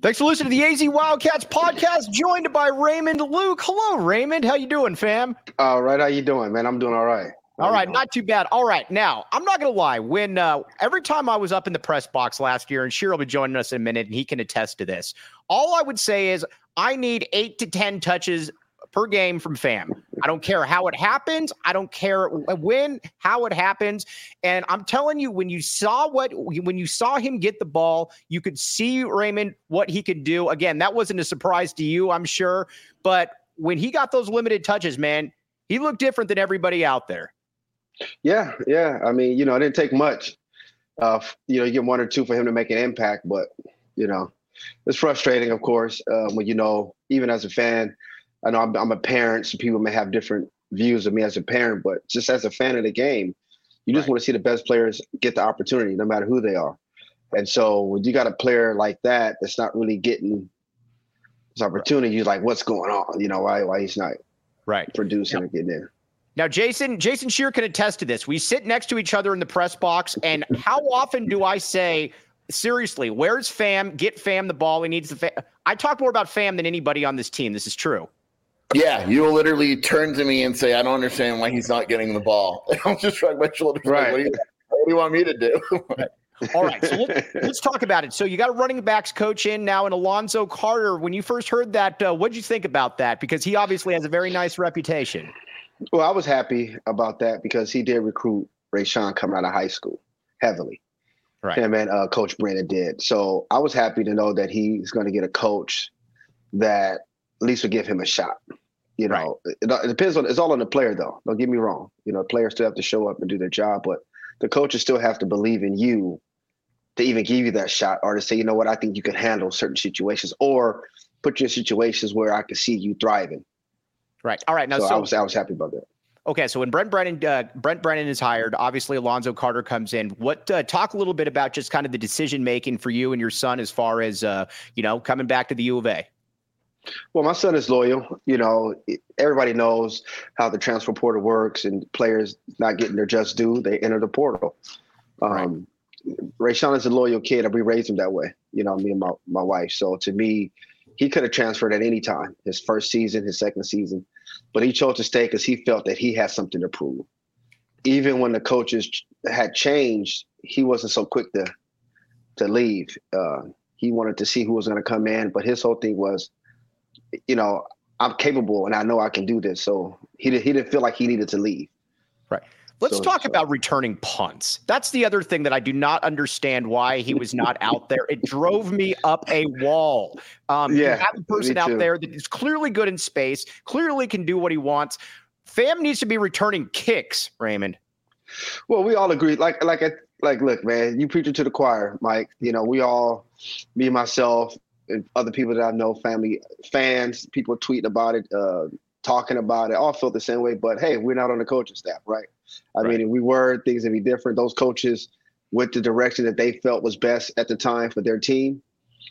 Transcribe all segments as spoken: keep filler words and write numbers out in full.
Thanks for listening to the A Z Wildcats podcast, joined by Raymond Luke. Hello, Raymond. How you doing, fam? All right. How you doing, man? I'm doing all right. How all right. Not too bad. All right. Now, I'm not going to lie. When uh, every time I was up in the press box last year, and Sheer will be joining us in a minute, and he can attest to this, all I would say is I need eight to ten touches per game from Fam. I don't care how it happens. I don't care when, how it happens. And I'm telling you, when you saw what, when you saw him get the ball, you could see, Raymond, what he could do. Again, that wasn't a surprise to you, I'm sure. But when he got those limited touches, man, he looked different than everybody out there. Yeah, yeah. I mean, you know, it didn't take much. Uh, you know, you get one or two for him to make an impact. But, you know, it's frustrating, of course, uh, when, you know, even as a fan, I know I'm, I'm a parent, so people may have different views of me as a parent, but just as a fan of the game, you just right. want to see the best players get the opportunity, no matter who they are. And so when you got a player like that that's not really getting this opportunity, you're like, what's going on? You know, why why he's not right producing yeah. or getting in. Now, Jason, Jason Sheer can attest to this. We sit next to each other in the press box, and how often do I say, seriously, where's Fam? Get Fam the ball. He needs the Fam. I talk more about Fam than anybody on this team. This is true. Yeah, you will literally turn to me and say, I don't understand why he's not getting the ball. I'll just shrug my shoulders. Right. Like, what, do you, what do you want me to do? All right, so let's, let's talk about it. So you got a running backs coach in now in Alonzo Carter. When you first heard that, uh, what did you think about that? Because he obviously has a very nice reputation. Well, I was happy about that because he did recruit Rayshawn coming out of high school heavily. Right. Him and uh, Coach Brennan did. So I was happy to know that he's going to get a coach that at least would give him a shot. You know, right. it, it depends on, it's all on the player though. Don't get me wrong. You know, players still have to show up and do their job, but the coaches still have to believe in you to even give you that shot or to say, you know what, I think you can handle certain situations or put you in situations where I can see you thriving. Right. All right. Now, so, so I was, I was happy about that. Okay. So when Brent Brennan, uh, Brent Brennan is hired, obviously Alonzo Carter comes in. What, uh, talk a little bit about just kind of the decision-making for you and your son as far as, uh, you know, coming back to the U of A. Well, my son is loyal. You know, everybody knows how the transfer portal works and players not getting their just due. They enter the portal. Um, right. Rayshawn is a loyal kid and we raised him that way, you know, me and my, my wife. So to me, he could have transferred at any time, his first season, his second season, but he chose to stay because he felt that he had something to prove. Even when the coaches had changed, he wasn't so quick to, to leave. Uh, he wanted to see who was going to come in, but his whole thing was, you know, I'm capable and I know I can do this. So he, did, he didn't feel like he needed to leave. Right. Let's so, talk so. about returning punts. That's the other thing that I do not understand why he was not out there. It drove me up a wall. Um, yeah, you have a person out there that is clearly good in space, clearly can do what he wants. Fam needs to be returning kicks, Raymond. Well, we all agree. Like, like, like, look, man, you preach it to the choir, Mike. You know, we all, me, myself, and other people that I know, family, fans, people tweeting about it, uh, talking about it, all felt the same way. But hey, we're not on the coaching staff, right? I right. mean, if we were, things would be different. Those coaches went the direction that they felt was best at the time for their team.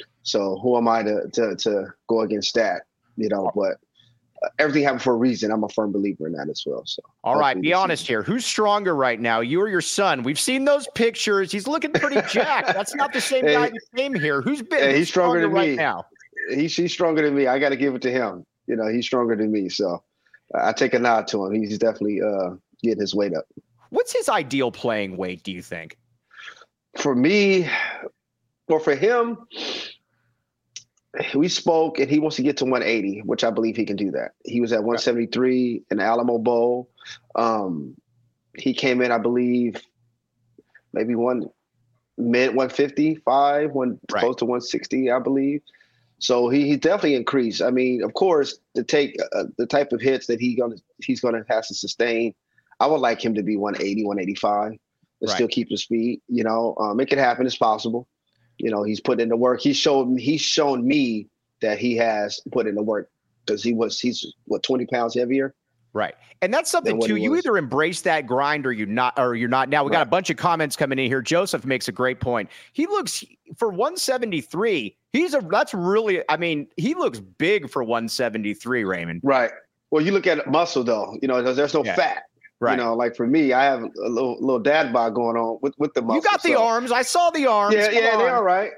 So who am I to to, to go against that? You know, but uh, everything happened for a reason. I'm a firm believer in that as well. So all right, be honest here. Who's stronger right now, you or your son? We've seen those pictures. He's looking pretty jacked. That's not the same guy that came here. Who's been hey, he's stronger, stronger than right me now? He's he's stronger than me. I got to give it to him. You know, he's stronger than me. So uh, I take a nod to him. He's definitely uh, getting his weight up. What's his ideal playing weight, do you think? For me, or for him, we spoke and he wants to get to one eighty, which I believe he can do that. He was at one seventy-three in the Alamo Bowl. Um, he came in, I believe, maybe one mid one fifty-five, one right. close to one sixty, I believe. So he, he definitely increased. I mean, of course, to take uh, the type of hits that he gonna he's going to have to sustain, I would like him to be one eighty, one eighty-five and right. still keep his speed. You know, um, it can happen. It's possible. You know, he's put in the work. He showed he's shown me that he has put in the work because he was he's what twenty pounds heavier. Right. And that's something too. You either embrace that grind or you not or you're not. Now we got right. a bunch of comments coming in here. Joseph makes a great point. He looks for one seventy-three. He's a that's really I mean, he looks big for one seventy-three, Raymond. Right. Well, you look at muscle though, you know, there's, there's no yeah. fat. Right. You know, like for me, I have a little little dad bod going on with, with the muscles. You got the so. arms. I saw the arms. Yeah, Come yeah, on. they're all right.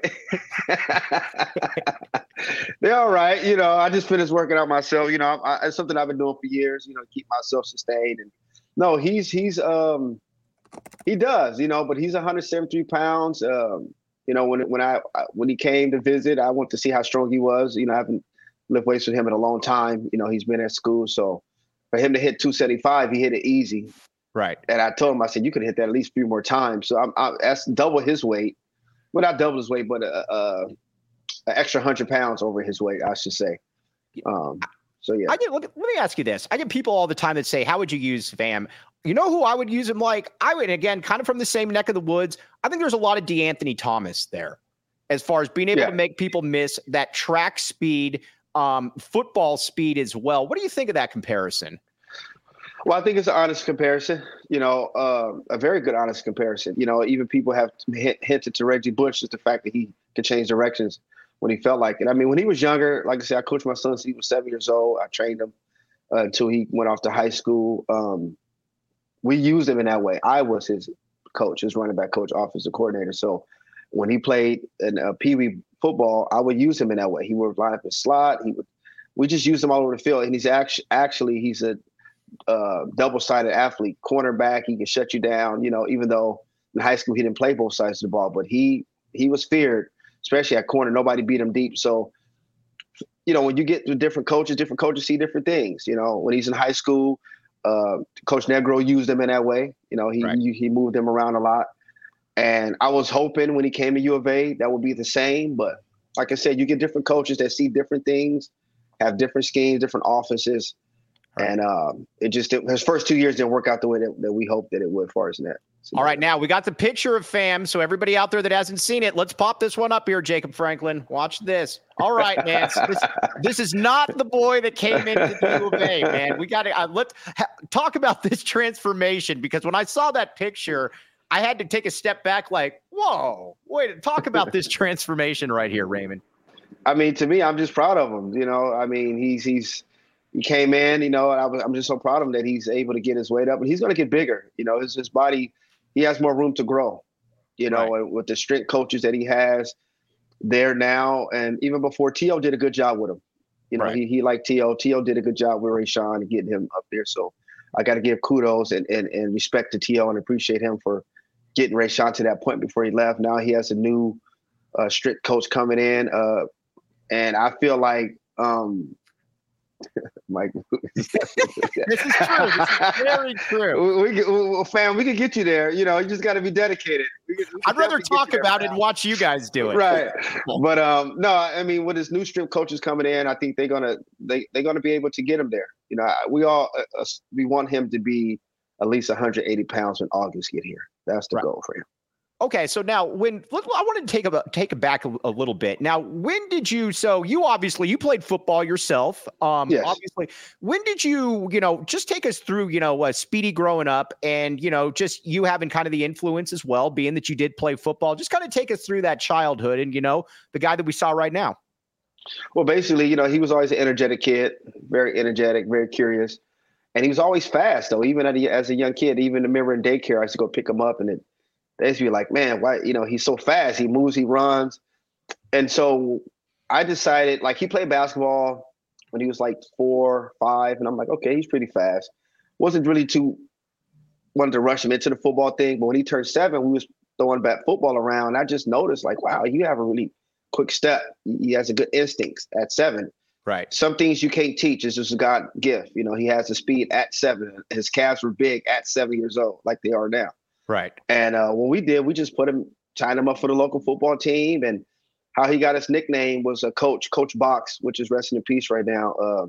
They're all right. You know, I just finished working out myself. You know, I, it's something I've been doing for years. You know, keep myself sustained. And no, he's he's um he does. You know, but he's one hundred seventy-three pounds. Um, you know, when when I when he came to visit, I went to see how strong he was. You know, I haven't lift weights with him in a long time. You know, he's been at school, so for him to hit two seventy-five, he hit it easy. Right. And I told him, I said, you could hit that at least a few more times. So I'm, I'm that's double his weight. Well, not double his weight, but a, a, a extra hundred pounds over his weight, I should say. Um, so yeah. I get. Let me, let me ask you this. I get people all the time that say, "How would you use Fam?" You know who I would use him like? I would, again, kind of from the same neck of the woods. I think there's a lot of DeAnthony Thomas there, as far as being able Yeah. to make people miss that track speed, um, football speed as well. What do you think of that comparison? Well, I think it's an honest comparison, you know, uh, a very good honest comparison. You know, even people have hint, hinted to Reggie Bush, just the fact that he could change directions when he felt like it. I mean, when he was younger, like I said, I coached my son since he was seven years old. I trained him uh, until he went off to high school. Um, we used him in that way. I was his coach, his running back coach, offensive coordinator. So when he played in uh, Pee Wee football, I would use him in that way. He would line up his slot. He would. We just used him all over the field, and he's actually actually he's a Uh, double-sided athlete, cornerback. He can shut you down. You know, even though in high school he didn't play both sides of the ball, but he he was feared, especially at corner. Nobody beat him deep. So, you know, when you get to different coaches, different coaches see different things. You know, when he's in high school, uh, Coach Negro used him in that way. You know, he Right. he, he moved him around a lot. And I was hoping when he came to U of A that would be the same. But like I said, you get different coaches that see different things, have different schemes, different offenses. Right. And um, it just his first two years didn't work out the way that, that we hoped that it would, as far as that. So, all right, now we got the picture of Fam. So everybody out there that hasn't seen it, let's pop this one up here, Jacob Franklin. Watch this. All right, man. So this, this is not the boy that came into the U of A, man. We got to uh, let's ha- talk about this transformation, because when I saw that picture, I had to take a step back, like, whoa, wait, talk about this transformation right here, Raymond. I mean, to me, I'm just proud of him. You know, I mean, he's he's. He came in, you know, and I was, I'm just so proud of him that he's able to get his weight up, and he's going to get bigger. You know, his his body, he has more room to grow. You know, right. with the strength coaches that he has there now, and even before, T O did a good job with him. You know, right. he he liked T O. T O did a good job with Rayshawn and getting him up there. So I got to give kudos and, and and respect to T O and appreciate him for getting Rayshawn to that point before he left. Now he has a new uh, strict coach coming in, uh, and I feel like. Um, Mike, this is true. This is very true. We, we, we, fam, we can get you there. You know, you just got to be dedicated. We can, we I'd rather talk about it and watch you guys do it. Right, but um, no, I mean, with his new strip coaches coming in, I think they're gonna they they're gonna be able to get him there. You know, we all uh, we want him to be at least one hundred eighty pounds when August get here. That's the right. goal for him. Okay, so now when I wanted to take a take it back a, a little bit. Now, when did you? So you obviously you played football yourself. Um, yes. Obviously, when did you? You know, just take us through. You know, uh, Speedy growing up, and you know, just you having kind of the influence as well, being that you did play football. Just kind of take us through that childhood, and you know, the guy that we saw right now. Well, basically, you know, he was always an energetic kid, very energetic, very curious, and he was always fast. Though, even at a, as a young kid, even remember in daycare, I used to go pick him up, and it. They used to be like, man, why, you know, he's so fast. He moves, he runs. And so I decided, like, he played basketball when he was like four, five. And I'm like, okay, he's pretty fast. Wasn't really too, wanted to rush him into the football thing. But when he turned seven, we was throwing back football around. I just noticed, like, wow, you have a really quick step. He has a good instincts at seven. Right. Some things you can't teach. It's just a God gift. You know, he has the speed at seven. His calves were big at seven years old, like they are now. Right. And uh, what we did, we just put him, signed him up for the local football team. And how he got his nickname was a coach, Coach Box, which is resting in peace right now. Uh,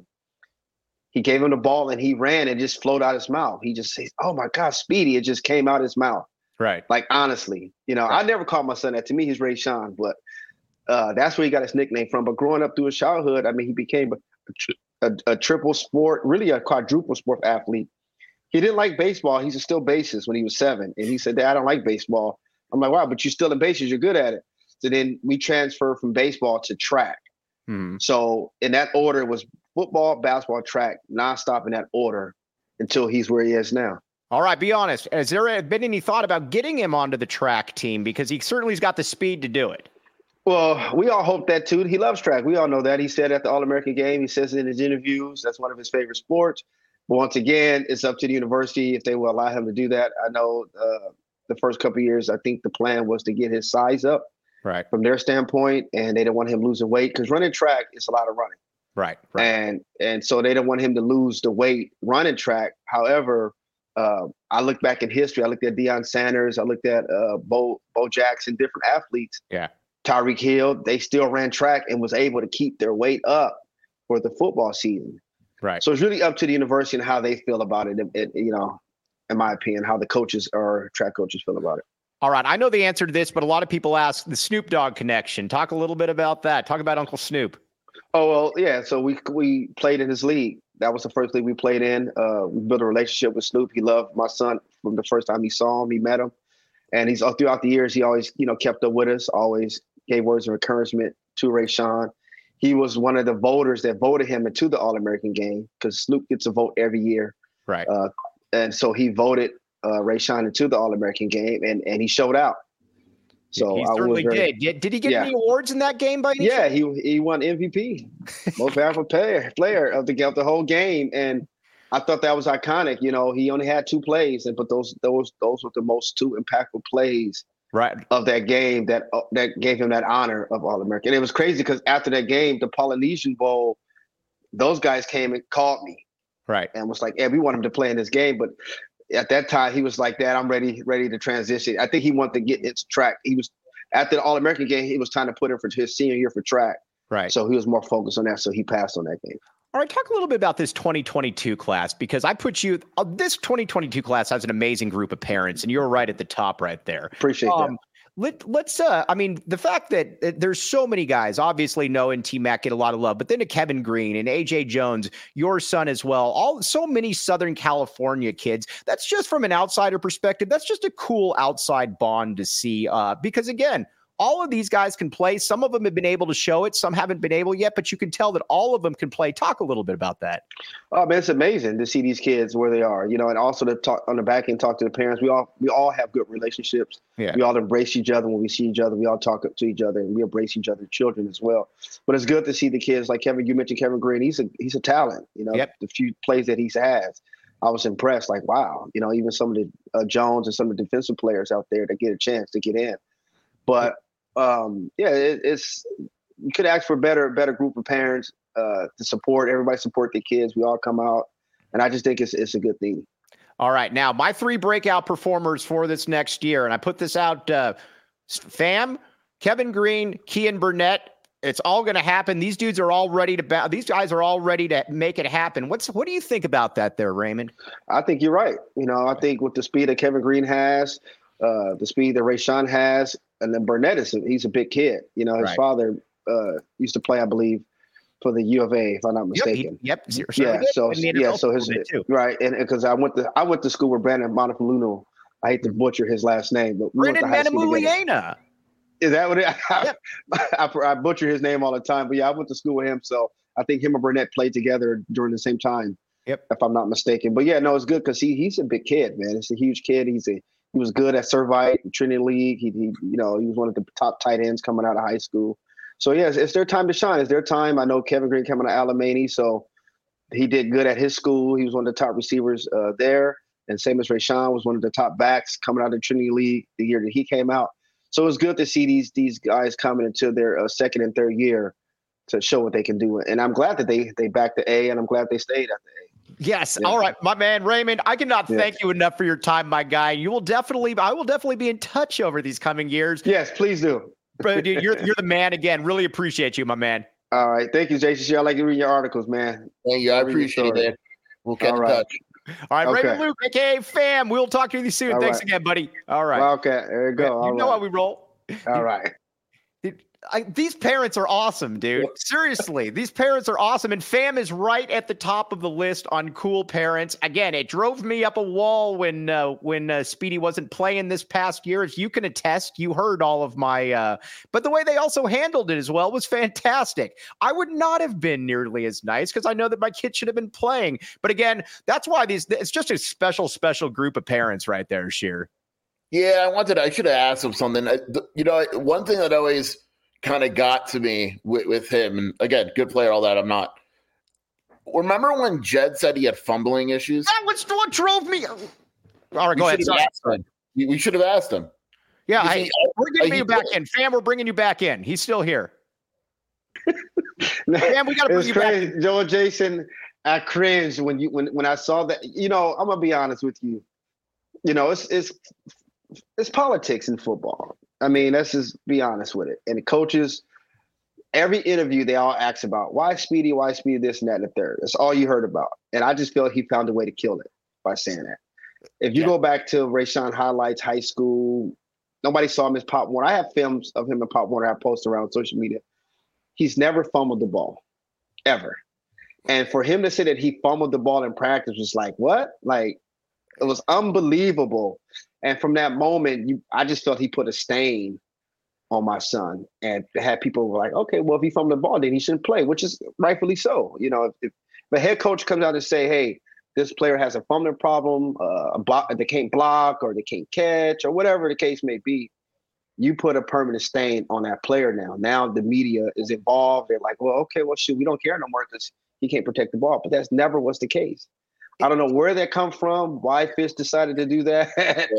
he gave him the ball and he ran and just flowed out his mouth. He just says, oh my God, Speedy. It just came out his mouth. Right. Like, honestly, you know, right. I never called my son that. To me, he's Rayshawn, but uh, that's where he got his nickname from. But growing up through his childhood, I mean, he became a, a, a triple sport, really a quadruple sport athlete. He didn't like baseball. He's still bases when he was seven. And he said, Dad, I don't like baseball. I'm like, wow, but you're still in bases. You're good at it. So then we transferred from baseball to track. Hmm. So in that order, it was football, basketball, track, nonstop in that order until he's where he is now. All right, be honest. Has there been any thought about getting him onto the track team? Because he certainly's got the speed to do it. Well, we all hope that too. He loves track. We all know that. He said at the All-American game, he says it in his interviews, that's one of his favorite sports. But once again, it's up to the university if they will allow him to do that. I know uh, the first couple of years, I think the plan was to get his size up right from their standpoint, and they didn't want him losing weight because running track is a lot of running. Right, right. And and so they didn't want him to lose the weight running track. However, uh, I looked back in history. I looked at Deion Sanders. I looked at uh, Bo Bo Jackson, different athletes. Yeah. Tyreek Hill, they still ran track and was able to keep their weight up for the football season. Right. So it's really up to the university and how they feel about it. It, it you know, in my opinion, how the coaches or track coaches feel about it. All right. I know the answer to this, but a lot of people ask the Snoop Dogg connection. Talk a little bit about that. Talk about Uncle Snoop. Oh, well, yeah. So we we played in his league. That was the first league we played in. Uh, we built a relationship with Snoop. He loved my son from the first time he saw him. He met him. And he's all throughout the years, he always, you know, kept up with us, always gave words of encouragement to Rayshawn. He was one of the voters that voted him into the All-American game because Snoop gets a vote every year. Right. Uh, and so he voted uh, Rayshawn into the All-American game, and, and he showed out. So he I certainly very, did. did. Did he get yeah. any awards in that game by any Yeah, chance? he he won M V P, most powerful player player of the of the whole game, and I thought that was iconic. You know, he only had two plays, and but those those those were the most two impactful plays right. of that game that uh, that gave him that honor of All-American. And it was crazy because after that game, the Polynesian Bowl, those guys came and called me, right, and was like, "Hey, we want him to play in this game," but at that time he was like, "Dad, I'm ready ready to transition." I think he wanted to get into track. He was. After the All-American game, he was trying to put him for his senior year for track. Right. So he was more focused on that, so he passed on that game. All right, talk a little bit about this twenty twenty-two class, because I put you uh, – this twenty twenty-two class has an amazing group of parents, and you're right at the top right there. Appreciate um, that. Let, let's, uh, I mean, the fact that uh, there's so many guys, obviously Noah and T-Mac get a lot of love, but then to Kevin Green and A J Jones, your son as well, all so many Southern California kids. That's just from an outsider perspective. That's just a cool outside bond to see uh, because, again, all of these guys can play. Some of them have been able to show it. Some haven't been able yet, but you can tell that all of them can play. Talk a little bit about that. Oh, man, it's amazing to see these kids where they are, you know, and also to talk on the back end, talk to the parents. We all we all have good relationships. Yeah. We all embrace each other when we see each other. We all talk to each other, and we embrace each other's children as well. But it's good to see the kids like Kevin. You mentioned Kevin Green. He's a he's a talent. You know, yep. The few plays that he's has, I was impressed. Like, wow, you know, even some of the uh, Jones and some of the defensive players out there that get a chance to get in. But um, yeah, it, it's you could ask for a better better group of parents uh, to support. Everybody support the kids. We all come out, and I just think it's it's a good thing. All right, now my three breakout performers for this next year, and I put this out, uh, fam, Kevin Green, Kean Burnett. It's all going to happen. These dudes are all ready to ba- these guys are all ready to make it happen. What's what do you think about that there, Raymond? I think you're right. You know, I think with the speed that Kevin Green has, uh, the speed that Rayshawn has, and then Burnett is he's a big kid. You know, his right. father uh, used to play, I believe, for the U of A, if I'm not mistaken. Yep. He, yep. Yeah. So yeah. So his right, and because I went to I went to school with Brandon Montefiluno. I hate to butcher his last name, but we Brandon Manamuliana. Is that what it? Yep. I, I, I butcher his name all the time, but yeah, I went to school with him, so I think him and Burnett played together during the same time. Yep. If I'm not mistaken, but yeah, no, it's good because he he's a big kid, man. It's a huge kid. He's a he was good at Servite, Trinity League. He, he you know he was one of the top tight ends coming out of high school. So yeah, it's, it's their time to shine. It's their time. I know Kevin Green coming out of Alamany, so he did good at his school. He was one of the top receivers uh, there, and same as Rayshawn was one of the top backs coming out of Trinity League the year that he came out. So it's good to see these these guys coming into their uh, second and third year to show what they can do. And I'm glad that they they backed the A, and I'm glad they stayed at the A. Yes. Yeah. All right, my man, Raymond, I cannot yeah. thank you enough for your time, my guy. You will definitely, I will definitely be in touch over these coming years. Yes, please do. Bro, dude, you're you're the man again. Really appreciate you, my man. All right. Thank you, Jason. I like to read your articles, man. Thank you. I appreciate it. We'll get All in right. touch. All right, Okay. Raymond Luke, A K A Fam. We'll talk to you soon. All Thanks right. again, buddy. All right. Okay. There you go. You All know right. how we roll. All right. I, these parents are awesome, dude. Seriously, these parents are awesome. And Fam is right at the top of the list on cool parents. Again, it drove me up a wall when uh, when uh, Speedy wasn't playing this past year. As you can attest, you heard all of my, uh, but the way they also handled it as well was fantastic. I would not have been nearly as nice because I know that my kid should have been playing. But again, that's why these, it's just a special, special group of parents right there, Sheer. Yeah, I wanted, I should have asked him something. I, you know, one thing that always kind of got to me with, with him, and again, good player, all that. I'm not. Remember when Jed said he had fumbling issues? That was what drove me. All right, go ahead. Sorry. We, we should have asked him. Yeah, I, he, we're getting you back in. Fam, we're bringing you back in. He's still here. Fam, we got to bring you crazy. back in. Joel Jason, I cringed when you when when I saw that. You know, I'm gonna be honest with you. You know, it's it's it's politics in football. I mean, let's just be honest with it. And the coaches, every interview, they all ask about why Speedy, why Speedy, this and that and the third. That's all you heard about. And I just feel he found a way to kill it by saying that. If you yeah. go back to Rayshawn highlights, high school, nobody saw him as Pop Warner. I have films of him in Pop Warner I post around social media. He's never fumbled the ball, ever. And for him to say that he fumbled the ball in practice was like, what? Like, it was unbelievable. And from that moment, you, I just felt he put a stain on my son, and had people were like, okay, well, if he fumbled the ball, then he shouldn't play, which is rightfully so. You know, if, if the head coach comes out and say, hey, this player has a fumbling problem, uh, a block, they can't block or they can't catch or whatever the case may be, you put a permanent stain on that player now. Now the media is involved. They're like, well, okay, well, shoot, we don't care no more because he can't protect the ball. But that's never was the case. I don't know where that come from, why Fish decided to do that.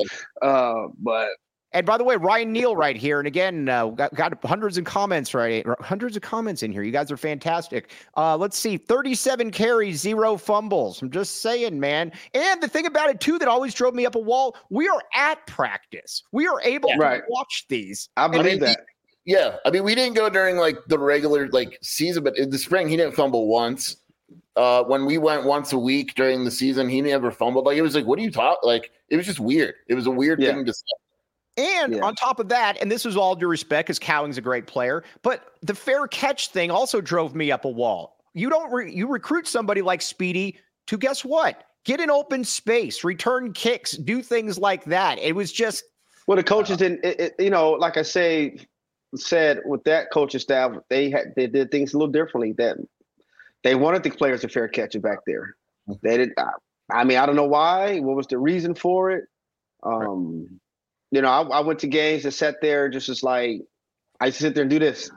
uh, but and by the way, Ryan Neal right here. And again, uh, got, got hundreds of comments, right? Hundreds of comments in here. You guys are fantastic. Uh, let's see. thirty-seven carries, zero fumbles. I'm just saying, man. And the thing about it, too, that always drove me up a wall, we are at practice. We are able yeah, to right. watch these. I believe I mean, that. Yeah. I mean, we didn't go during like the regular like season, but in the spring, he didn't fumble once. Uh, when we went once a week during the season, he never fumbled. Like, it was like, what are you talking? Like, it was just weird. It was a weird yeah. thing to say. And yeah. on top of that, and this was all due respect because Cowing's a great player, but the fair catch thing also drove me up a wall. You don't re- you recruit somebody like Speedy to, guess what? Get an open space, return kicks, do things like that. It was just well, the coaches uh, didn't. It, it, you know, like I say, said with that coaching staff, they had they did things a little differently. That they wanted the players to fair catch it back there. They did. I, I mean, I don't know why. What was the reason for it? Um, right. You know, I, I went to games and sat there just as like, I sit there and do this.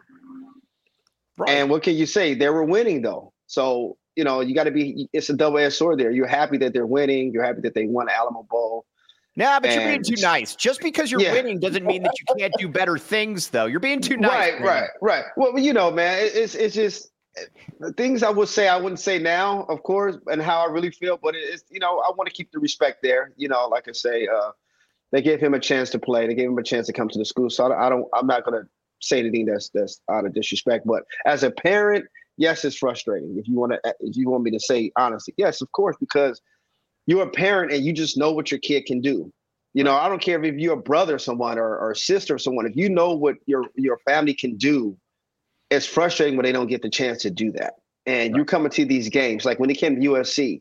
Right. And what can you say? They were winning though. So, you know, you got to be, it's a double-edged sword there. You're happy that they're winning. You're happy that they won the Alamo Bowl. Nah, but and, you're being too nice. Just because you're yeah. winning doesn't mean that you can't do better things though. You're being too nice. Right, man. right, right. Well, you know, man, it, it's it's just the things I would say I wouldn't say now, of course, and how I really feel. But it's, you know, I want to keep the respect there. You know, like I say, uh, they gave him a chance to play. They gave him a chance to come to the school. So I don't, I'm not going to say anything that's that's out of disrespect. But as a parent, yes, it's frustrating. If you want to, if you want me to say honestly, yes, of course, because you're a parent and you just know what your kid can do. You know, I don't care if you're a brother or someone or, or a sister or someone. If you know what your your family can do, it's frustrating when they don't get the chance to do that. And you're coming to these games, like when they came to U S C,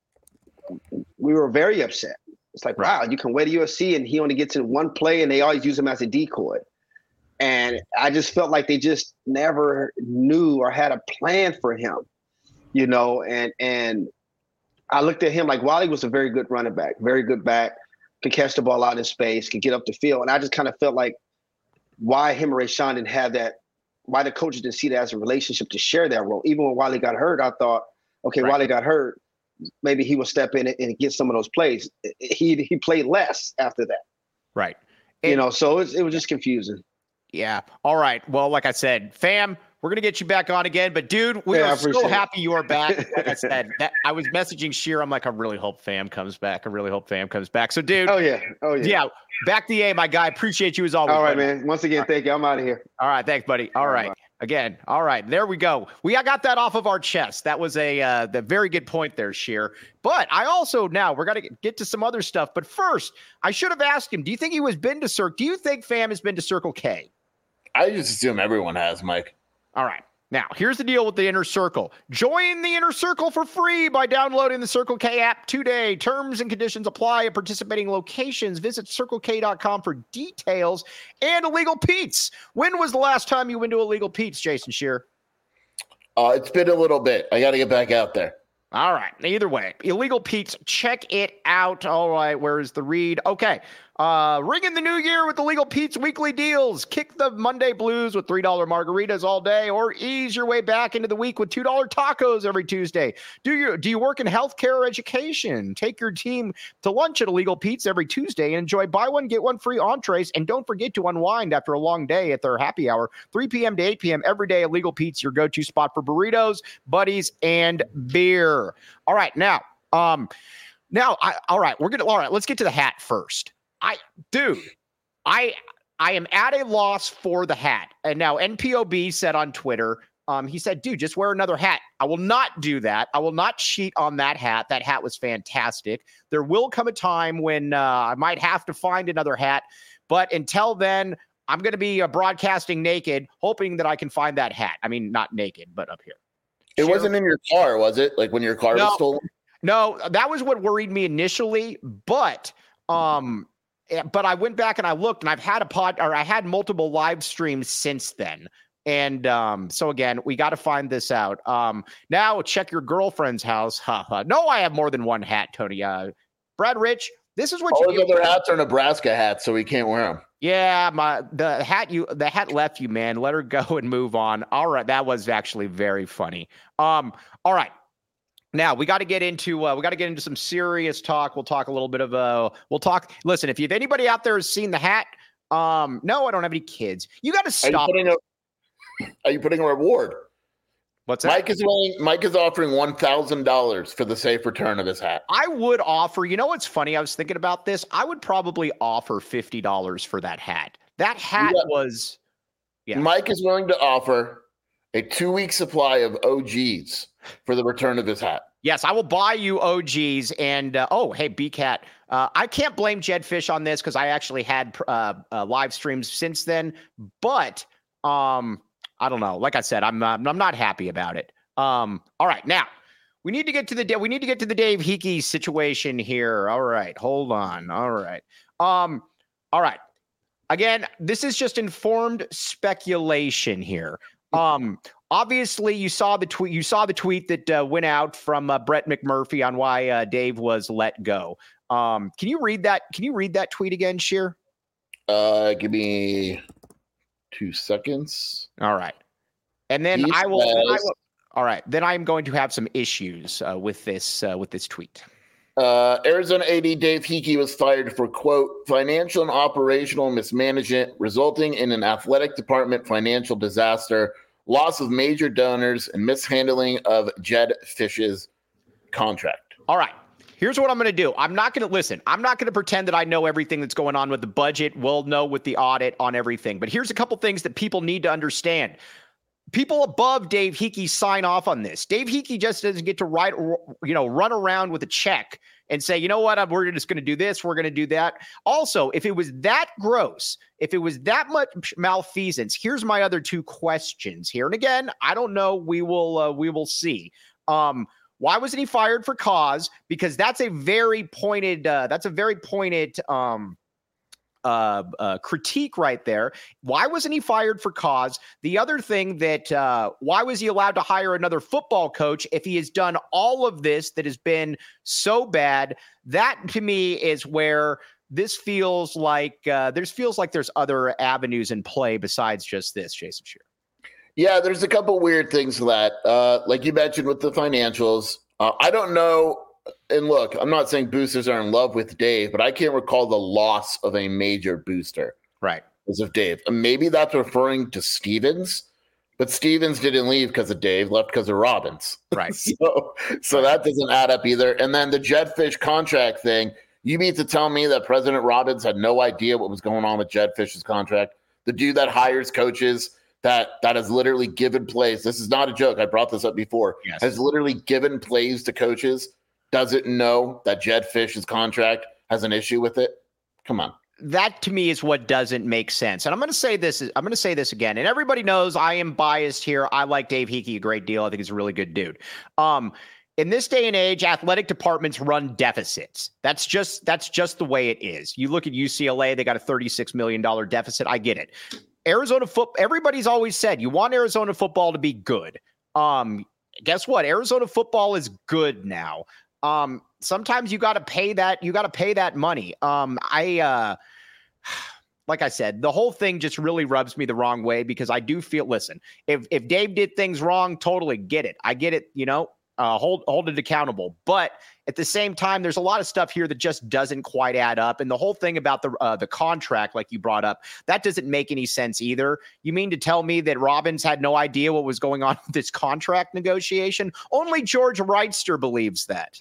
we were very upset. It's like, wow, you can wait to U S C and he only gets in one play and they always use him as a decoy. And I just felt like they just never knew or had a plan for him, you know, and and I looked at him like Wally was a very good running back, very good back, could catch the ball out in space, could get up the field. And I just kind of felt like why him and Rayshawn didn't have that, why the coaches didn't see that as a relationship to share that role. Even when Wally got hurt, I thought, okay, right. Wally got hurt, maybe he will step in and get some of those plays. He he played less after that. Right. And, you know, so it was, it was just confusing. Yeah. All right. Well, like I said, fam, we're going to get you back on again. But, dude, we yeah, are so happy you are back. Like I said, that, I was messaging Sheer. I'm like, I really hope fam comes back. I really hope fam comes back. So, dude. Oh, yeah. Oh, yeah. Yeah. Back to the A, my guy. Appreciate you as always. All right, buddy. man. Once again, right. thank you. I'm out of here. All right. Thanks, buddy. All, All right. right. Again. All right. There we go. We I got that off of our chest. That was a uh, the very good point there, Sheer. But I also now we're going to get to some other stuff. But first, I should have asked him, do you think he was been to Circle? Do you think fam has been to Circle K? I just assume everyone has, Mike. All right. Now, here's the deal with the Inner Circle. Join the Inner Circle for free by downloading the Circle K app today. Terms and conditions apply at participating locations. Visit circle k dot com for details. And Illegal Pete's. When was the last time you went to Illegal Pete's, Jason Shearer? Uh, it's been a little bit. I got to get back out there. All right. Either way, Illegal Pete's, check it out. All right. Where is the read? Okay. Uh, ring in the new year with Illegal Pete's weekly deals. Kick the Monday blues with three dollar margaritas all day, or ease your way back into the week with two dollar tacos every Tuesday. Do you do you work in healthcare or education? Take your team to lunch at Illegal Pete's every Tuesday and enjoy buy one, get one free entrees. And don't forget to unwind after a long day at their happy hour, three p.m. to eight p.m. every day. Illegal Pete's, your go-to spot for burritos, buddies, and beer. All right. Now, um, now, I, all right, we're going to, all right, let's get to the hat first. I, dude, I, I am at a loss for the hat. And now N P O B said on Twitter, um, he said, dude, just wear another hat. I will not do that. I will not cheat on that hat. That hat was fantastic. There will come a time when uh, I might have to find another hat. But until then, I'm going to be uh, broadcasting naked, hoping that I can find that hat. I mean, not naked, but up here. It Share- wasn't in your car, was it? Like when your car no, was stolen? No, that was what worried me initially. But, um, but I went back and I looked, and I've had a pod, or I had multiple live streams since then. And um, so again, we got to find this out. Um, now check your girlfriend's house. Ha ha. No, I have more than one hat, Tony. Uh, Brad Rich, this is what All you those other hats are Nebraska hats, so we can't wear them. Yeah, my the hat you the hat left you, man. Let her go and move on. All right, that was actually very funny. Um, all right. Now we got to get into uh, we got to get into some serious talk. We'll talk a little bit of uh we'll talk. Listen, if you, if anybody out there has seen the hat, um, no, I don't have any kids. You got to stop. Are you, a, are you putting a reward? What's that? Mike is willing, Mike is offering one thousand dollars for the safe return of his hat. I would offer, you know what's funny? I was thinking about this. I would probably offer fifty dollars for that hat. That hat yeah. was, yeah. Mike is willing to offer a two-week supply of O Gs for the return of his hat. Yes, I will buy you O Gs. And, uh, oh, hey, B-Cat, uh, I can't blame Jed Fish on this because I actually had uh, uh, live streams since then. But, um, I don't know. Like I said, I'm uh, I'm not happy about it. Um, all right, now we need to get to the we need to get to the Dave Hickey situation here. All right, hold on. All right, um, all right. Again, this is just informed speculation here. Um, obviously, you saw the tweet. You saw the tweet that uh, went out from uh, Brett McMurphy on why uh, Dave was let go. Um, can you read that? Can you read that tweet again, Sheer? Uh, give me two seconds. All right. And then He I will, says, then I will. All right. Then I'm going to have some issues uh, with this uh, with this tweet. Uh, Arizona A D Dave Hickey was fired for, quote, financial and operational mismanagement resulting in an athletic department financial disaster, loss of major donors, and mishandling of Jed Fish's contract. All right. Here's what I'm going to do. I'm not going to listen. I'm not going to pretend that I know everything that's going on with the budget. We'll know with the audit on everything. But here's a couple things that people need to understand. People above Dave Hickey sign off on this. Dave Hickey just doesn't get to write, you know, run around with a check and say, you know what, we're just going to do this. We're going to do that. Also, if it was that gross, if it was that much malfeasance, here's my other two questions here. And again, I don't know. We will, uh, we will see. Um, Why wasn't he fired for cause? Because that's a very pointed, uh, that's a very pointed um, uh, uh, critique right there. Why wasn't he fired for cause? The other thing that, uh, why was he allowed to hire another football coach if he has done all of this that has been so bad? That to me is where this feels like, uh, there's feels like there's other avenues in play besides just this, Jason Shearer. Yeah, there's a couple weird things to that. Uh, like you mentioned with the financials, uh, I don't know. And look, I'm not saying boosters are in love with Dave, but I can't recall the loss of a major booster. Right. Because of Dave. And maybe that's referring to Stevens, but Stevens didn't leave because of Dave, left because of Robbins. Right. so so that doesn't add up either. And then the Jed Fish contract thing, you mean to tell me that President Robbins had no idea what was going on with Jed Fish's contract? The dude that hires coaches that that has literally given plays. This is not a joke. I brought this up before. Yes. Has literally given plays to coaches. Doesn't know that Jed Fish's contract has an issue with it. Come on. that to me is what doesn't make sense. And I'm going to say this, I'm going to say this again, and everybody knows I am biased here. I like Dave Hickey a great deal. I think he's a really good dude. Um, in this day and age, athletic departments run deficits. That's just, that's just the way it is. You look at U C L A, they got a thirty-six million dollars deficit. I get it. Arizona football, everybody's always said you want Arizona football to be good. Um, guess what? Arizona football is good now. Um, sometimes you got to pay that, you got to pay that money. Um, I, uh, like I said, the whole thing just really rubs me the wrong way because I do feel, listen, if, if Dave did things wrong, totally get it. I get it. You know, uh, hold, hold it accountable. But at the same time, there's a lot of stuff here that just doesn't quite add up. And the whole thing about the, uh, the contract, like you brought up, that doesn't make any sense either. You mean to tell me that Robbins had no idea what was going on with this contract negotiation? Only George Wrightster believes that.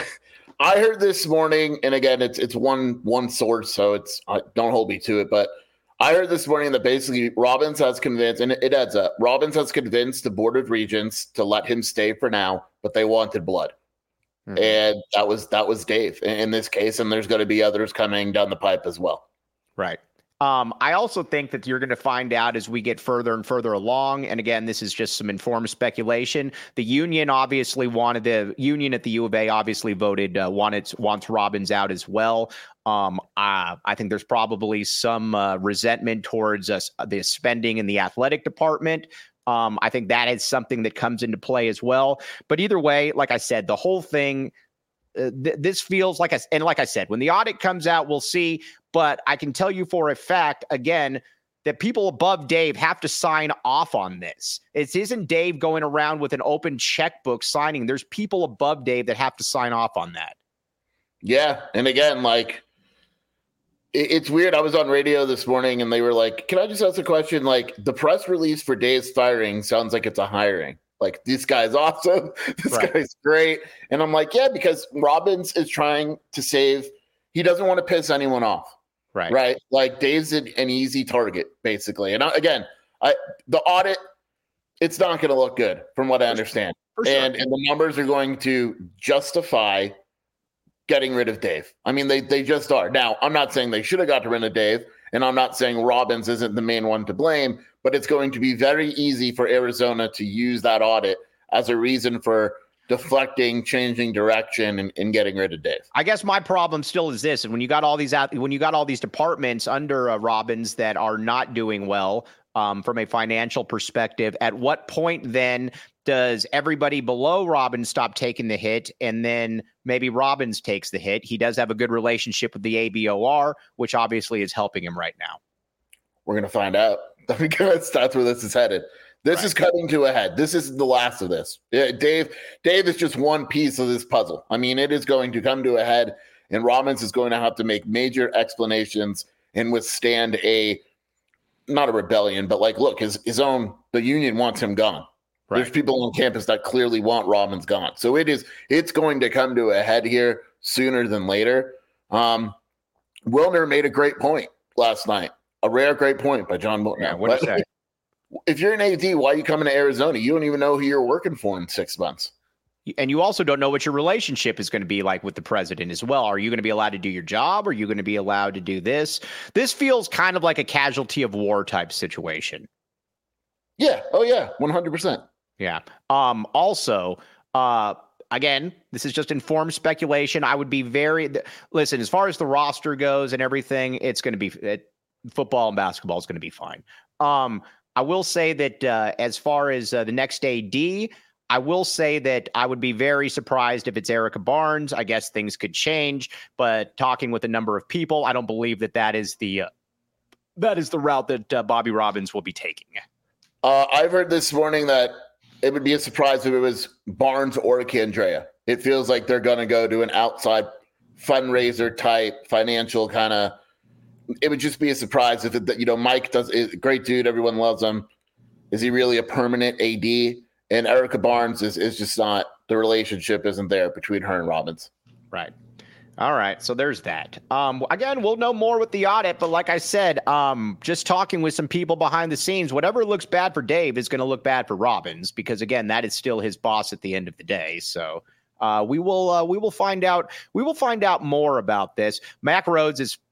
I heard this morning, and again, it's it's one one source, so it's uh, don't hold me to it. But I heard this morning that basically Robbins has convinced, and it, it adds up. Robbins has convinced the Board of Regents to let him stay for now, but they wanted blood, mm-hmm. and that was that was Dave in, in this case. And there's going to be others coming down the pipe as well. Right. Um, I also think that you're going to find out as we get further and further along. And again, this is just some informed speculation. The union obviously wanted the union at the U of A obviously voted, uh, wanted, wants Robbins out as well. Um, uh, I think there's probably some uh, resentment towards us, uh, the spending in the athletic department. Um, I think that is something that comes into play as well. But either way, like I said, the whole thing, Uh, th- this feels like, a, and like I said, when the audit comes out, we'll see. But I can tell you for a fact, again, that people above Dave have to sign off on this. It isn't Dave going around with an open checkbook signing. There's people above Dave that have to sign off on that. Yeah. And again, like, it, it's weird. I was on radio this morning and they were like, can I just ask a question? Like, the press release for Dave's firing sounds like it's a hiring. Like, this guy's awesome. This right. guy's great. And I'm like, yeah, because Robbins is trying to save. He doesn't want to piss anyone off. Right. Right. Like, Dave's an, an easy target, basically. And I, again, I, the audit, it's not going to look good from what I understand. For sure. And, and the numbers are going to justify getting rid of Dave. I mean, they, they just are. Now, I'm not saying they should have got rid of Dave. And I'm not saying Robbins isn't the main one to blame, but it's going to be very easy for Arizona to use that audit as a reason for deflecting, changing direction, and, and getting rid of Dave. I guess my problem still is this: and when you got all these out, when you got all these departments under uh, Robbins that are not doing well um, from a financial perspective, at what point then does everybody below Robbins stop taking the hit, and then maybe Robbins takes the hit? He does have a good relationship with the A B O R, which obviously is helping him right now. We're going to find out. Because that's where this is headed. This right. is coming to a head. This is the last of this. Yeah, Dave, Dave is just one piece of this puzzle. I mean, it is going to come to a head, and Robbins is going to have to make major explanations and withstand a, not a rebellion, but like, look, his, his own, the union wants him gone. Right. There's people on campus that clearly want Robbins gone. So it is, it's going to come to a head here sooner than later. Um, Wilner made a great point last night. A rare great point by John Milton. Yeah, what did you say? If you're an A D, why are you coming to Arizona? You don't even know who you're working for in six months. And you also don't know what your relationship is going to be like with the president as well. Are you going to be allowed to do your job? Are you going to be allowed to do this? This feels kind of like a casualty of war type situation. Yeah. Oh, yeah. one hundred percent. Yeah. Um, also, uh, again, this is just informed speculation. I would be very – listen, as far as the roster goes and everything, it's going to be it, – football and basketball is going to be fine. Um, I will say that uh, as far as uh, the next A D, I will say that I would be very surprised if it's Erica Barnes. I guess things could change, but talking with a number of people, I don't believe that that is the uh, that is the route that uh, Bobby Robbins will be taking. Uh, I've heard this morning that it would be a surprise if it was Barnes or Candrea. It feels like they're going to go to an outside fundraiser type financial kind of. It would just be a surprise if it, you know, Mike does is a great dude. Everyone loves him. Is he really a permanent A D? And Erica Barnes is, is just not, the relationship isn't there between her and Robbins. Right. All right. So there's that. Um, again, we'll know more with the audit, but like I said, um, just talking with some people behind the scenes, whatever looks bad for Dave is going to look bad for Robbins, because again, that is still his boss at the end of the day. So Uh, we will uh, we will find out we will find out more about this. Mack Rhoades is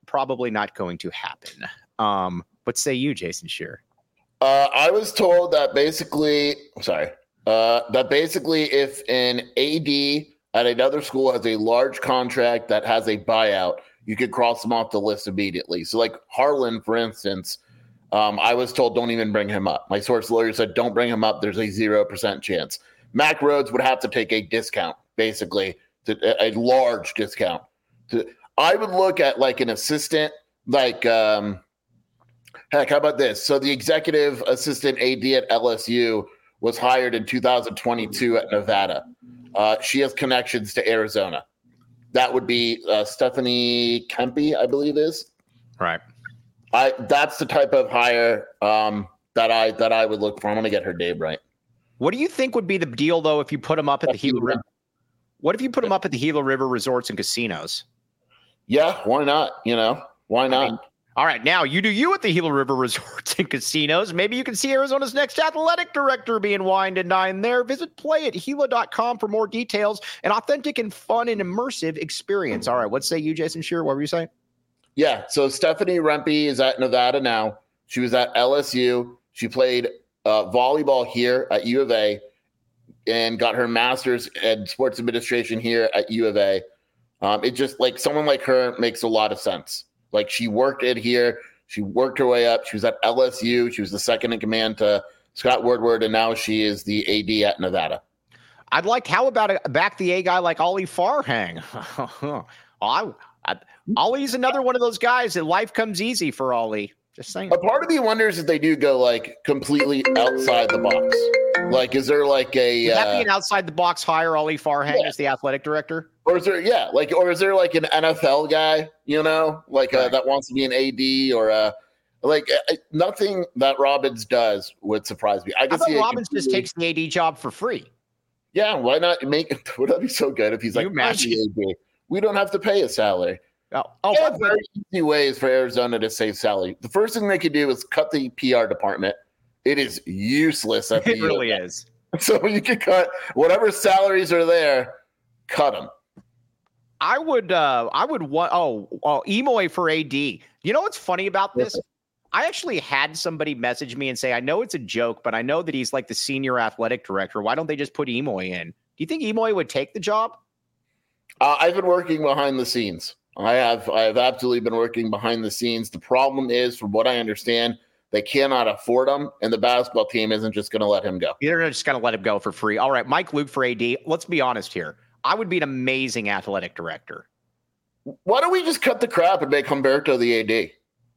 probably not going to happen. Um, what say you, Jason Scheer? Uh, I was told that basically, sorry, uh, that basically if an A D at another school has a large contract that has a buyout, you could cross them off the list immediately. So like Harlan, for instance, um, I was told don't even bring him up. My source lawyer said don't bring him up. There's a zero percent chance. Mac Rhodes would have to take a discount, basically, to, a, a large discount. To, I would look at like an assistant, like um, – heck, how about this? So the executive assistant A D at L S U was hired in two thousand twenty-two at Nevada. Uh, she has connections to Arizona. That would be uh, Stephanie Kempe, I believe is. Right. I that's the type of hire um, that I that I would look for. I'm going to get her name right. What do you think would be the deal though if you put them up at the Gila River? What if you put them up at the Gila River resorts and casinos? Yeah, why not? You know, why not? I mean, all right, now you do you at the Gila River resorts and casinos. Maybe you can see Arizona's next athletic director being wined and dined there. Visit play at gila dot com for more details. An authentic and fun and immersive experience. All right, what say you, Jason Scheer? What were you saying? Yeah, so Stephanie Rempe is at Nevada now. She was at L S U. She played uh, volleyball here at U of A and got her master's in sports administration here at U of A. Um, it just like someone like her makes a lot of sense. Like she worked it here. She worked her way up. She was at L S U. She was the second in command to Scott Woodward, and now she is the A D at Nevada. I'd like, how about a back the A guy like Ollie Farhang? I, I, Ollie's another one of those guys that life comes easy for Ollie. Just saying. A part of me wonders if they do go like completely outside the box. Like, is there like a? Would that uh, be an outside the box hire, Ollie Farhang yeah. as the athletic director? Or is there, yeah, like, or is there like an N F L guy, you know, like uh, Right. that wants to be an A D or uh, like uh, nothing that Robbins does would surprise me. I How can about see it Robbins just takes the A D job for free? Yeah, why not make it? Would that be so good if he's Can like, you imagine? "I'm the A D. We don't have to pay a salary. Oh, oh There by are the way, very easy ways for Arizona to save salary. The first thing they could do is cut the P R department. It is useless at the it really U of A. is. So you could cut whatever salaries are there, cut them. I would, uh, I would want, oh, oh, Emoy for A D. You know what's funny about this? I actually had somebody message me and say, I know it's a joke, but I know that he's like the senior athletic director. Why don't they just put Emoy in? Do you think Emoy would take the job? Uh, I've been working behind the scenes. I have, I have absolutely been working behind the scenes. The problem is, from what I understand, they cannot afford him, and the basketball team isn't just going to let him go. They're just going to let him go for free. All right, Mike Luke for A D. Let's be honest here. I would be an amazing athletic director. Why don't we just cut the crap and make Humberto the A D?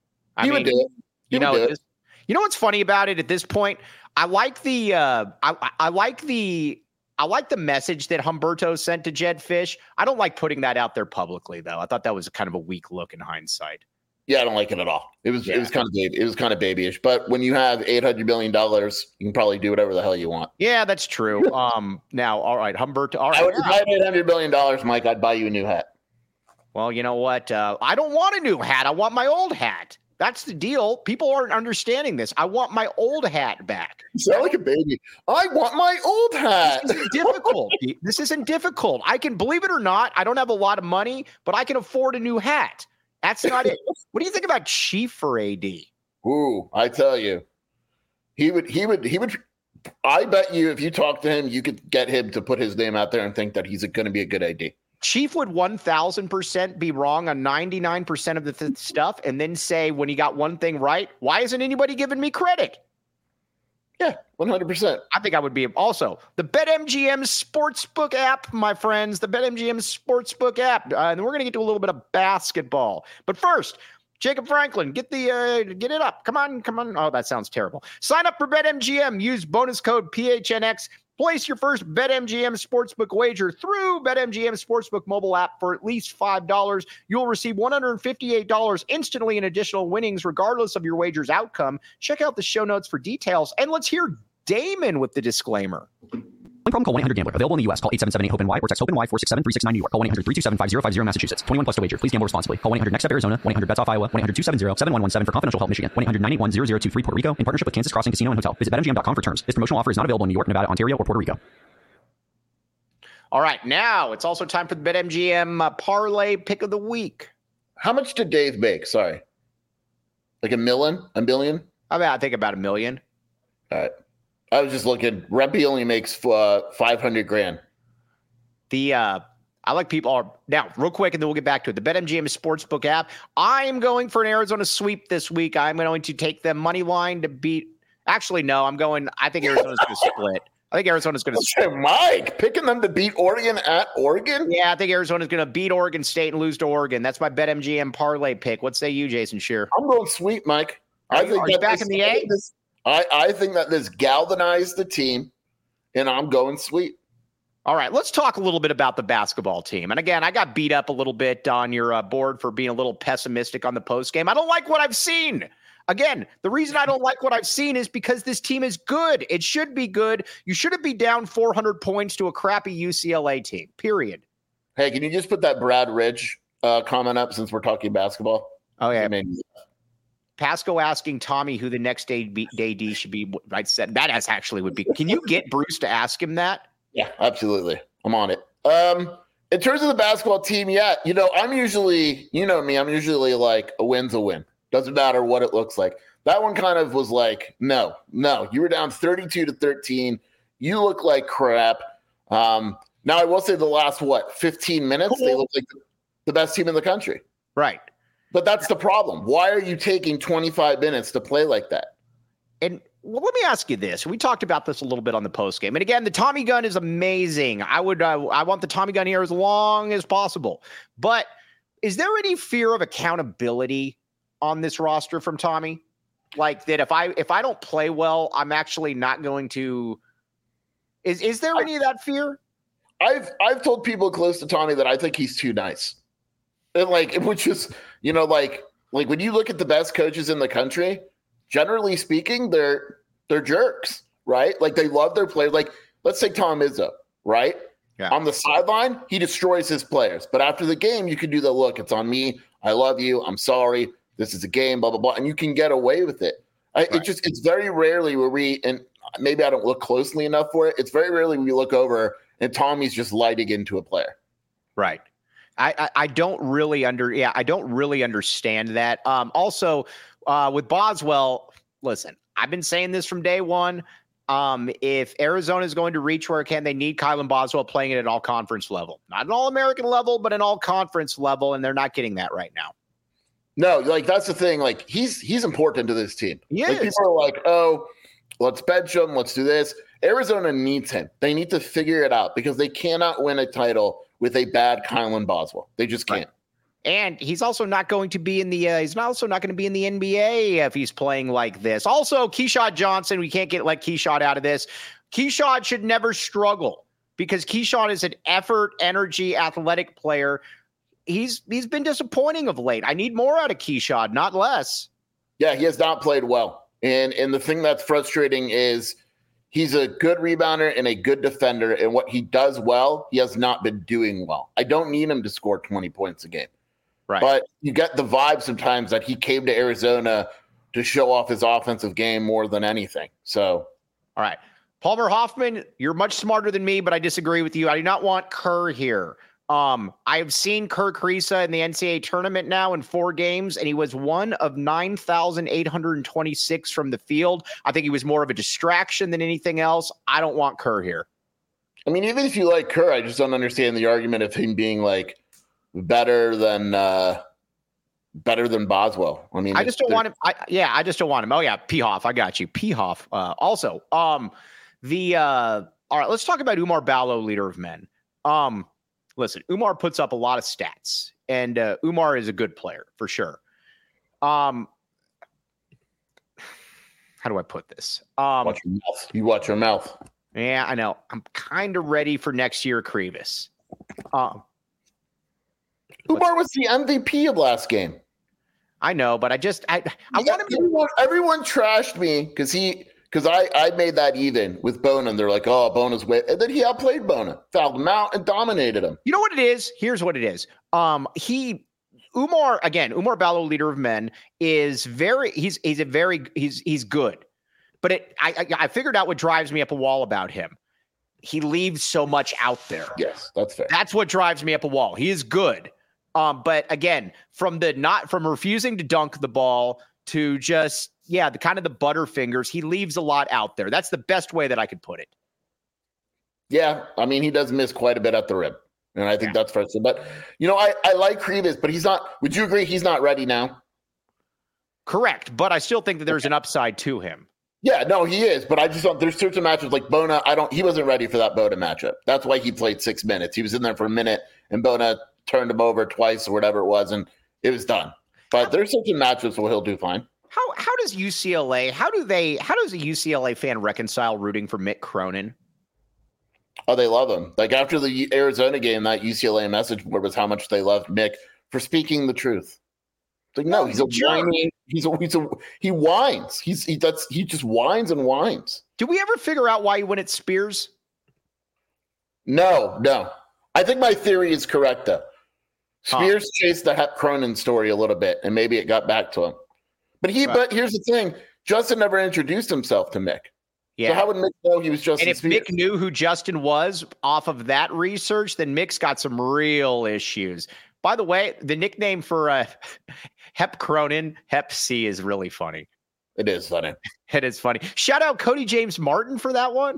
I He mean, would do it. He you would know, do at it. this, you know what's funny about it at this point? I like the, uh, I, I like the, I like the message that Humberto sent to Jed Fish. I don't like putting that out there publicly, though. I thought that was kind of a weak look in hindsight. Yeah, I don't like it at all. It was Yeah. it was kind of baby, it was kind of babyish. But when you have eight hundred million dollars, you can probably do whatever the hell you want. Yeah, that's true. Um, now, all right, Humberto. All I right. would, if I had eight hundred million dollars, Mike, I'd buy you a new hat. Well, you know what? Uh, I don't want a new hat. I want my old hat. That's the deal. People aren't understanding this. I want my old hat back. You sound like a baby. I want my old hat. This isn't difficult. This isn't difficult. I can, believe it or not, I don't have a lot of money, but I can afford a new hat. That's not it. What do you think about Chief for A D? Ooh, I tell you, he would, he would, he would. I bet you, if you talk to him, you could get him to put his name out there and think that he's going to be a good A D. Chief would one thousand percent be wrong on ninety-nine percent of the th- stuff and then say when he got one thing right, why isn't anybody giving me credit? Yeah, one hundred percent. I think I would be. Also, the BetMGM Sportsbook app, my friends, the BetMGM Sportsbook app. Uh, and we're going to get to a little bit of basketball. But first, Jacob Franklin, get the uh, get it up. Come on, come on. Oh, that sounds terrible. Sign up for BetMGM. Use bonus code P H N X. Place your first BetMGM Sportsbook wager through BetMGM Sportsbook mobile app for at least five dollars. You'll receive one hundred fifty-eight dollars instantly in additional winnings, regardless of your wager's outcome. Check out the show notes for details. And let's hear Damon with the disclaimer. Problem, call one eight hundred gambler. Available in the U S. Call eight seven seven eight hope N Y or text hope N Y four six seven three six nine New York. Call one eight hundred three two seven five zero five zero Massachusetts. twenty-one plus to wager. Please gamble responsibly. Call one eight hundred next step Arizona. one eight hundred bets off Iowa. one eight hundred two seven zero seven one one seven for confidential help Michigan. one eight hundred nine eight one zero zero two three Puerto Rico in partnership with Kansas Crossing Casino and Hotel. Visit bet M G M dot com for terms. This promotional offer is not available in New York, Nevada, Ontario, or Puerto Rico. All right, now it's also time for the BetMGM uh, parlay pick of the week. How much did Dave make? Sorry. Like a million? A million? I mean, I think about a million. All right. I was just looking. Rempe only makes uh, five hundred grand. The uh, I like people are now real quick, and then we'll get back to it. The BetMGM Sportsbook app. I am going for an Arizona sweep this week. I'm going to take them money line to beat. Actually, no, I'm going. I think Arizona's going to split. I think Arizona's going to split. Mike picking them to beat Oregon at Oregon. Yeah, I think Arizona's going to beat Oregon State and lose to Oregon. That's my BetMGM parlay pick. What say you, Jason Shear? I'm going sweep, Mike. Are I you, think are you back this, in the A? This, I, I think that this galvanized the team, and I'm going sweep. All right, let's talk a little bit about the basketball team. And again, I got beat up a little bit on your uh, board for being a little pessimistic on the post game. I don't like what I've seen. Again, the reason I don't like what I've seen is because this team is good. It should be good. You shouldn't be down four hundred points to a crappy U C L A team, period. Hey, can you just put that Brad Ridge uh, comment up since we're talking basketball? Oh, yeah. I mean, Pasco asking Tommy who the next A D should be. I said that as actually would be. Can you get Bruce to ask him that? Yeah, absolutely. I'm on it. Um, in terms of the basketball team, yeah, you know, I'm usually, you know me, I'm usually like a win's a win. Doesn't matter what it looks like. That one kind of was like, no, no, you were down thirty-two to thirteen. You look like crap. Um, now I will say the last, what, fifteen minutes, they look like the best team in the country. Right. But that's the problem. Why are you taking twenty-five minutes to play like that? And well, let me ask you this. We talked about this a little bit on the post game. And again, the Tommy gun is amazing. I would, uh, I want the Tommy gun here as long as possible. But is there any fear of accountability on this roster from Tommy? Like that if I if I don't play well, I'm actually not going to is is there any of that fear? I've I've told people close to Tommy that I think he's too nice. And like which is, you know, like like when you look at the best coaches in the country, generally speaking, they're they're jerks, right? Like they love their players. Like let's take Tom Izzo, right? Yeah. On the sideline, he destroys his players. But after the game, you can do the look, it's on me. I love you. I'm sorry. This is a game, blah, blah, blah. And you can get away with it. I, right. It just, it's very rarely where we, and maybe I don't look closely enough for it. It's very rarely we look over and Tommy's just lighting into a player. Right. I, I, I don't really under, yeah, I don't really understand that. Um, also uh, with Boswell, listen, I've been saying this from day one. Um, if Arizona is going to reach where it can, they need Kylan Boswell playing it at all conference level, not an all American level, but an all conference level. And they're not getting that right now. No, like that's the thing. Like he's he's important to this team. He like, is. People are like, oh, let's bench him. Let's do this. Arizona needs him. They need to figure it out because they cannot win a title with a bad Kylan Boswell. They just can't. Right. And he's also not going to be in the. Uh, he's not also not going to be in the N B A if he's playing like this. Also, Keyshawn Johnson. We can't get like Keyshawn out of this. Keyshawn should never struggle because Keyshawn is an effort, energy, athletic player. He's he's been disappointing of late. I need more out of Keyshawn, not less. Yeah, he has not played well. And and the thing that's frustrating is he's a good rebounder and a good defender. And what he does well, he has not been doing well. I don't need him to score twenty points a game. Right. But you get the vibe sometimes that he came to Arizona to show off his offensive game more than anything. So, all right. Palmer Hoffman, you're much smarter than me, but I disagree with you. I do not want Kerr here. Um, I've seen Kerr Kriisa in the N C A A tournament now in four games, and he was one of nine thousand eight hundred twenty-six from the field. I think he was more of a distraction than anything else. I don't want Kerr here. I mean, even if you like Kerr, I just don't understand the argument of him being like better than uh, better than Boswell. I mean, I just don't want him. I, yeah, I just don't want him. Oh yeah, P Hoff, I got you. P Hoff. Uh, also, um, the uh, all right. Let's talk about Umar Ballo, leader of men. Um. Listen, Umar puts up a lot of stats, and uh, Umar is a good player for sure. Um, how do I put this? Um, watch your mouth. You watch your mouth. Yeah, I know. I'm kind of ready for next year, Krivas. Um, Umar was the M V P of last game. I know, but I just I I yeah, want him to. Everyone, everyone trashed me because he. Because I, I made that even with Bona, and they're like, oh, Bona's way. And then he outplayed Bona, fouled him out, and dominated him. You know what it is? Here's what it is. Um, he, Umar, again, Umar Ballo, leader of men, is very, he's he's a very, he's he's good. But it, I, I I figured out what drives me up a wall about him. He leaves so much out there. Yes, that's fair. That's what drives me up a wall. He is good, Um, but again, from the not from refusing to dunk the ball to just, yeah, the kind of the butterfingers, he leaves a lot out there. That's the best way that I could put it. Yeah, I mean, he does miss quite a bit at the rim. And I think yeah. that's frustrating. But, you know, I, I like Krivas, but he's not – would you agree he's not ready now? Correct, but I still think that there's an upside to him. Yeah, no, he is. But I just don't – there's certain matchups like Bona. I don't – he wasn't ready for that Bona matchup. That's why he played six minutes. He was in there for a minute, and Bona turned him over twice or whatever it was, and it was done. But there's certain matchups where he'll do fine. How how does U C L A – how do they – how does a U C L A fan reconcile rooting for Mick Cronin? Oh, they love him. Like after the Arizona game, that U C L A message board was how much they loved Mick for speaking the truth. It's like, no, he's, he's a whiny. He's a, he's a, he whines. He's he that's he just whines and whines. Did we ever figure out why he went at Spears? No, no. I think my theory is correct though. Spears huh. chased the Hep Cronin story a little bit, and maybe it got back to him. But he. Right. But here's the thing: Justin never introduced himself to Mick. Yeah. So how would Mick know he was Justin And if Spears? Mick knew who Justin was off of that research, then Mick's got some real issues. By the way, the nickname for uh, Hep Cronin, Hep C, is really funny. It is funny. It is funny. Shout out Cody James Martin for that one.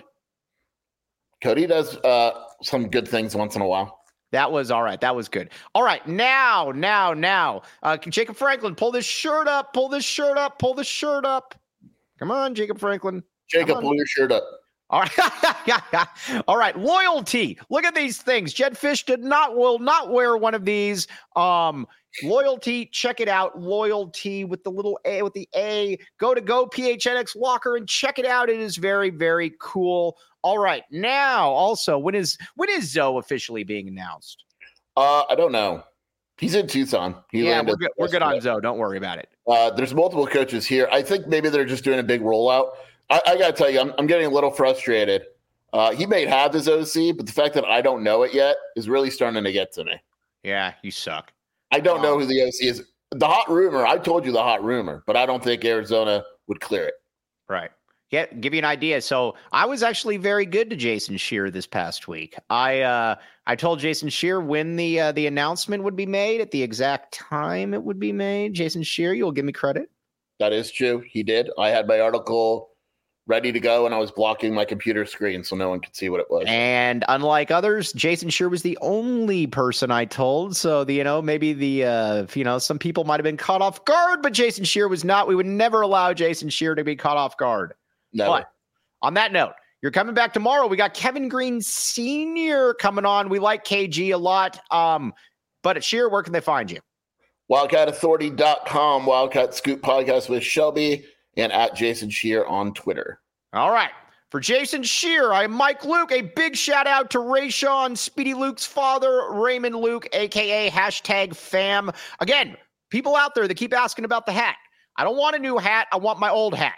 Cody does uh, some good things once in a while. That was all right. That was good. All right. Now, now, now. Uh, Jacob Franklin, pull this shirt up. Pull this shirt up. Pull this shirt up. Come on, Jacob Franklin. Jacob, pull your shirt up. All right. All right. Loyalty. Look at these things. Jed Fish did not, will not wear one of these. Um, loyalty. Check it out. Loyalty with the little A, with the A. Go to Go P H N X Locker and check it out. It is very, very cool. All right. Now, also, when is, when is Zoe officially being announced? Uh, I don't know. He's in Tucson. He yeah, we're good, we're good on Zoe. Don't worry about it. Uh, there's multiple coaches here. I think maybe they're just doing a big rollout. I, I got to tell you, I'm, I'm getting a little frustrated. Uh, he may have his O C, but the fact that I don't know it yet is really starting to get to me. Yeah, you suck. I don't um, know who the O C is. The hot rumor, I told you the hot rumor, but I don't think Arizona would clear it. Right. Yeah, give you an idea. So I was actually very good to Jason Scheer this past week. I uh, I told Jason Scheer when the uh, the announcement would be made at the exact time it would be made. Jason Scheer, you'll give me credit. That is true. He did. I had my article ready to go, and I was blocking my computer screen so no one could see what it was. And unlike others, Jason Scheer was the only person I told. So, the, you know, maybe the, uh, you know, some people might have been caught off guard, but Jason Scheer was not. We would never allow Jason Scheer to be caught off guard. Never. But on that note, you're coming back tomorrow. We got Kevin Green Senior coming on. We like K G a lot. Um, but at Scheer, where can they find you? Wildcat Authority dot com, Wildcat Scoop Podcast with Shelby, and at Jason Scheer on Twitter. All right. For Jason Scheer, I'm Mike Luke. A big shout out to Rayshawn, Speedy Luke's father, Raymond Luke, a k a hashtag fam. Again, people out there that keep asking about the hat. I don't want a new hat. I want my old hat.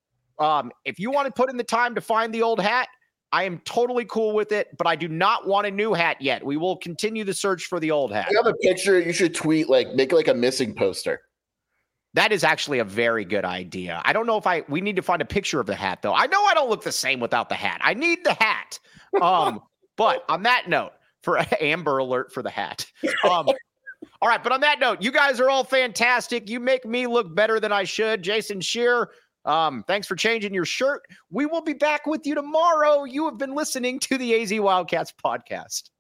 Um, if you want to put in the time to find the old hat, I am totally cool with it, but I do not want a new hat yet. We will continue the search for the old hat. If you have a picture, you should tweet, like, make like a missing poster. That is actually a very good idea. I don't know if I, we need to find a picture of the hat though. I know I don't look the same without the hat. I need the hat. Um, but on that note, for Amber Alert for the hat. Um, all right. But on that note, you guys are all fantastic. You make me look better than I should. Jason Scheer, um, thanks for changing your shirt. We will be back with you tomorrow. You have been listening to the A Z Wildcats podcast.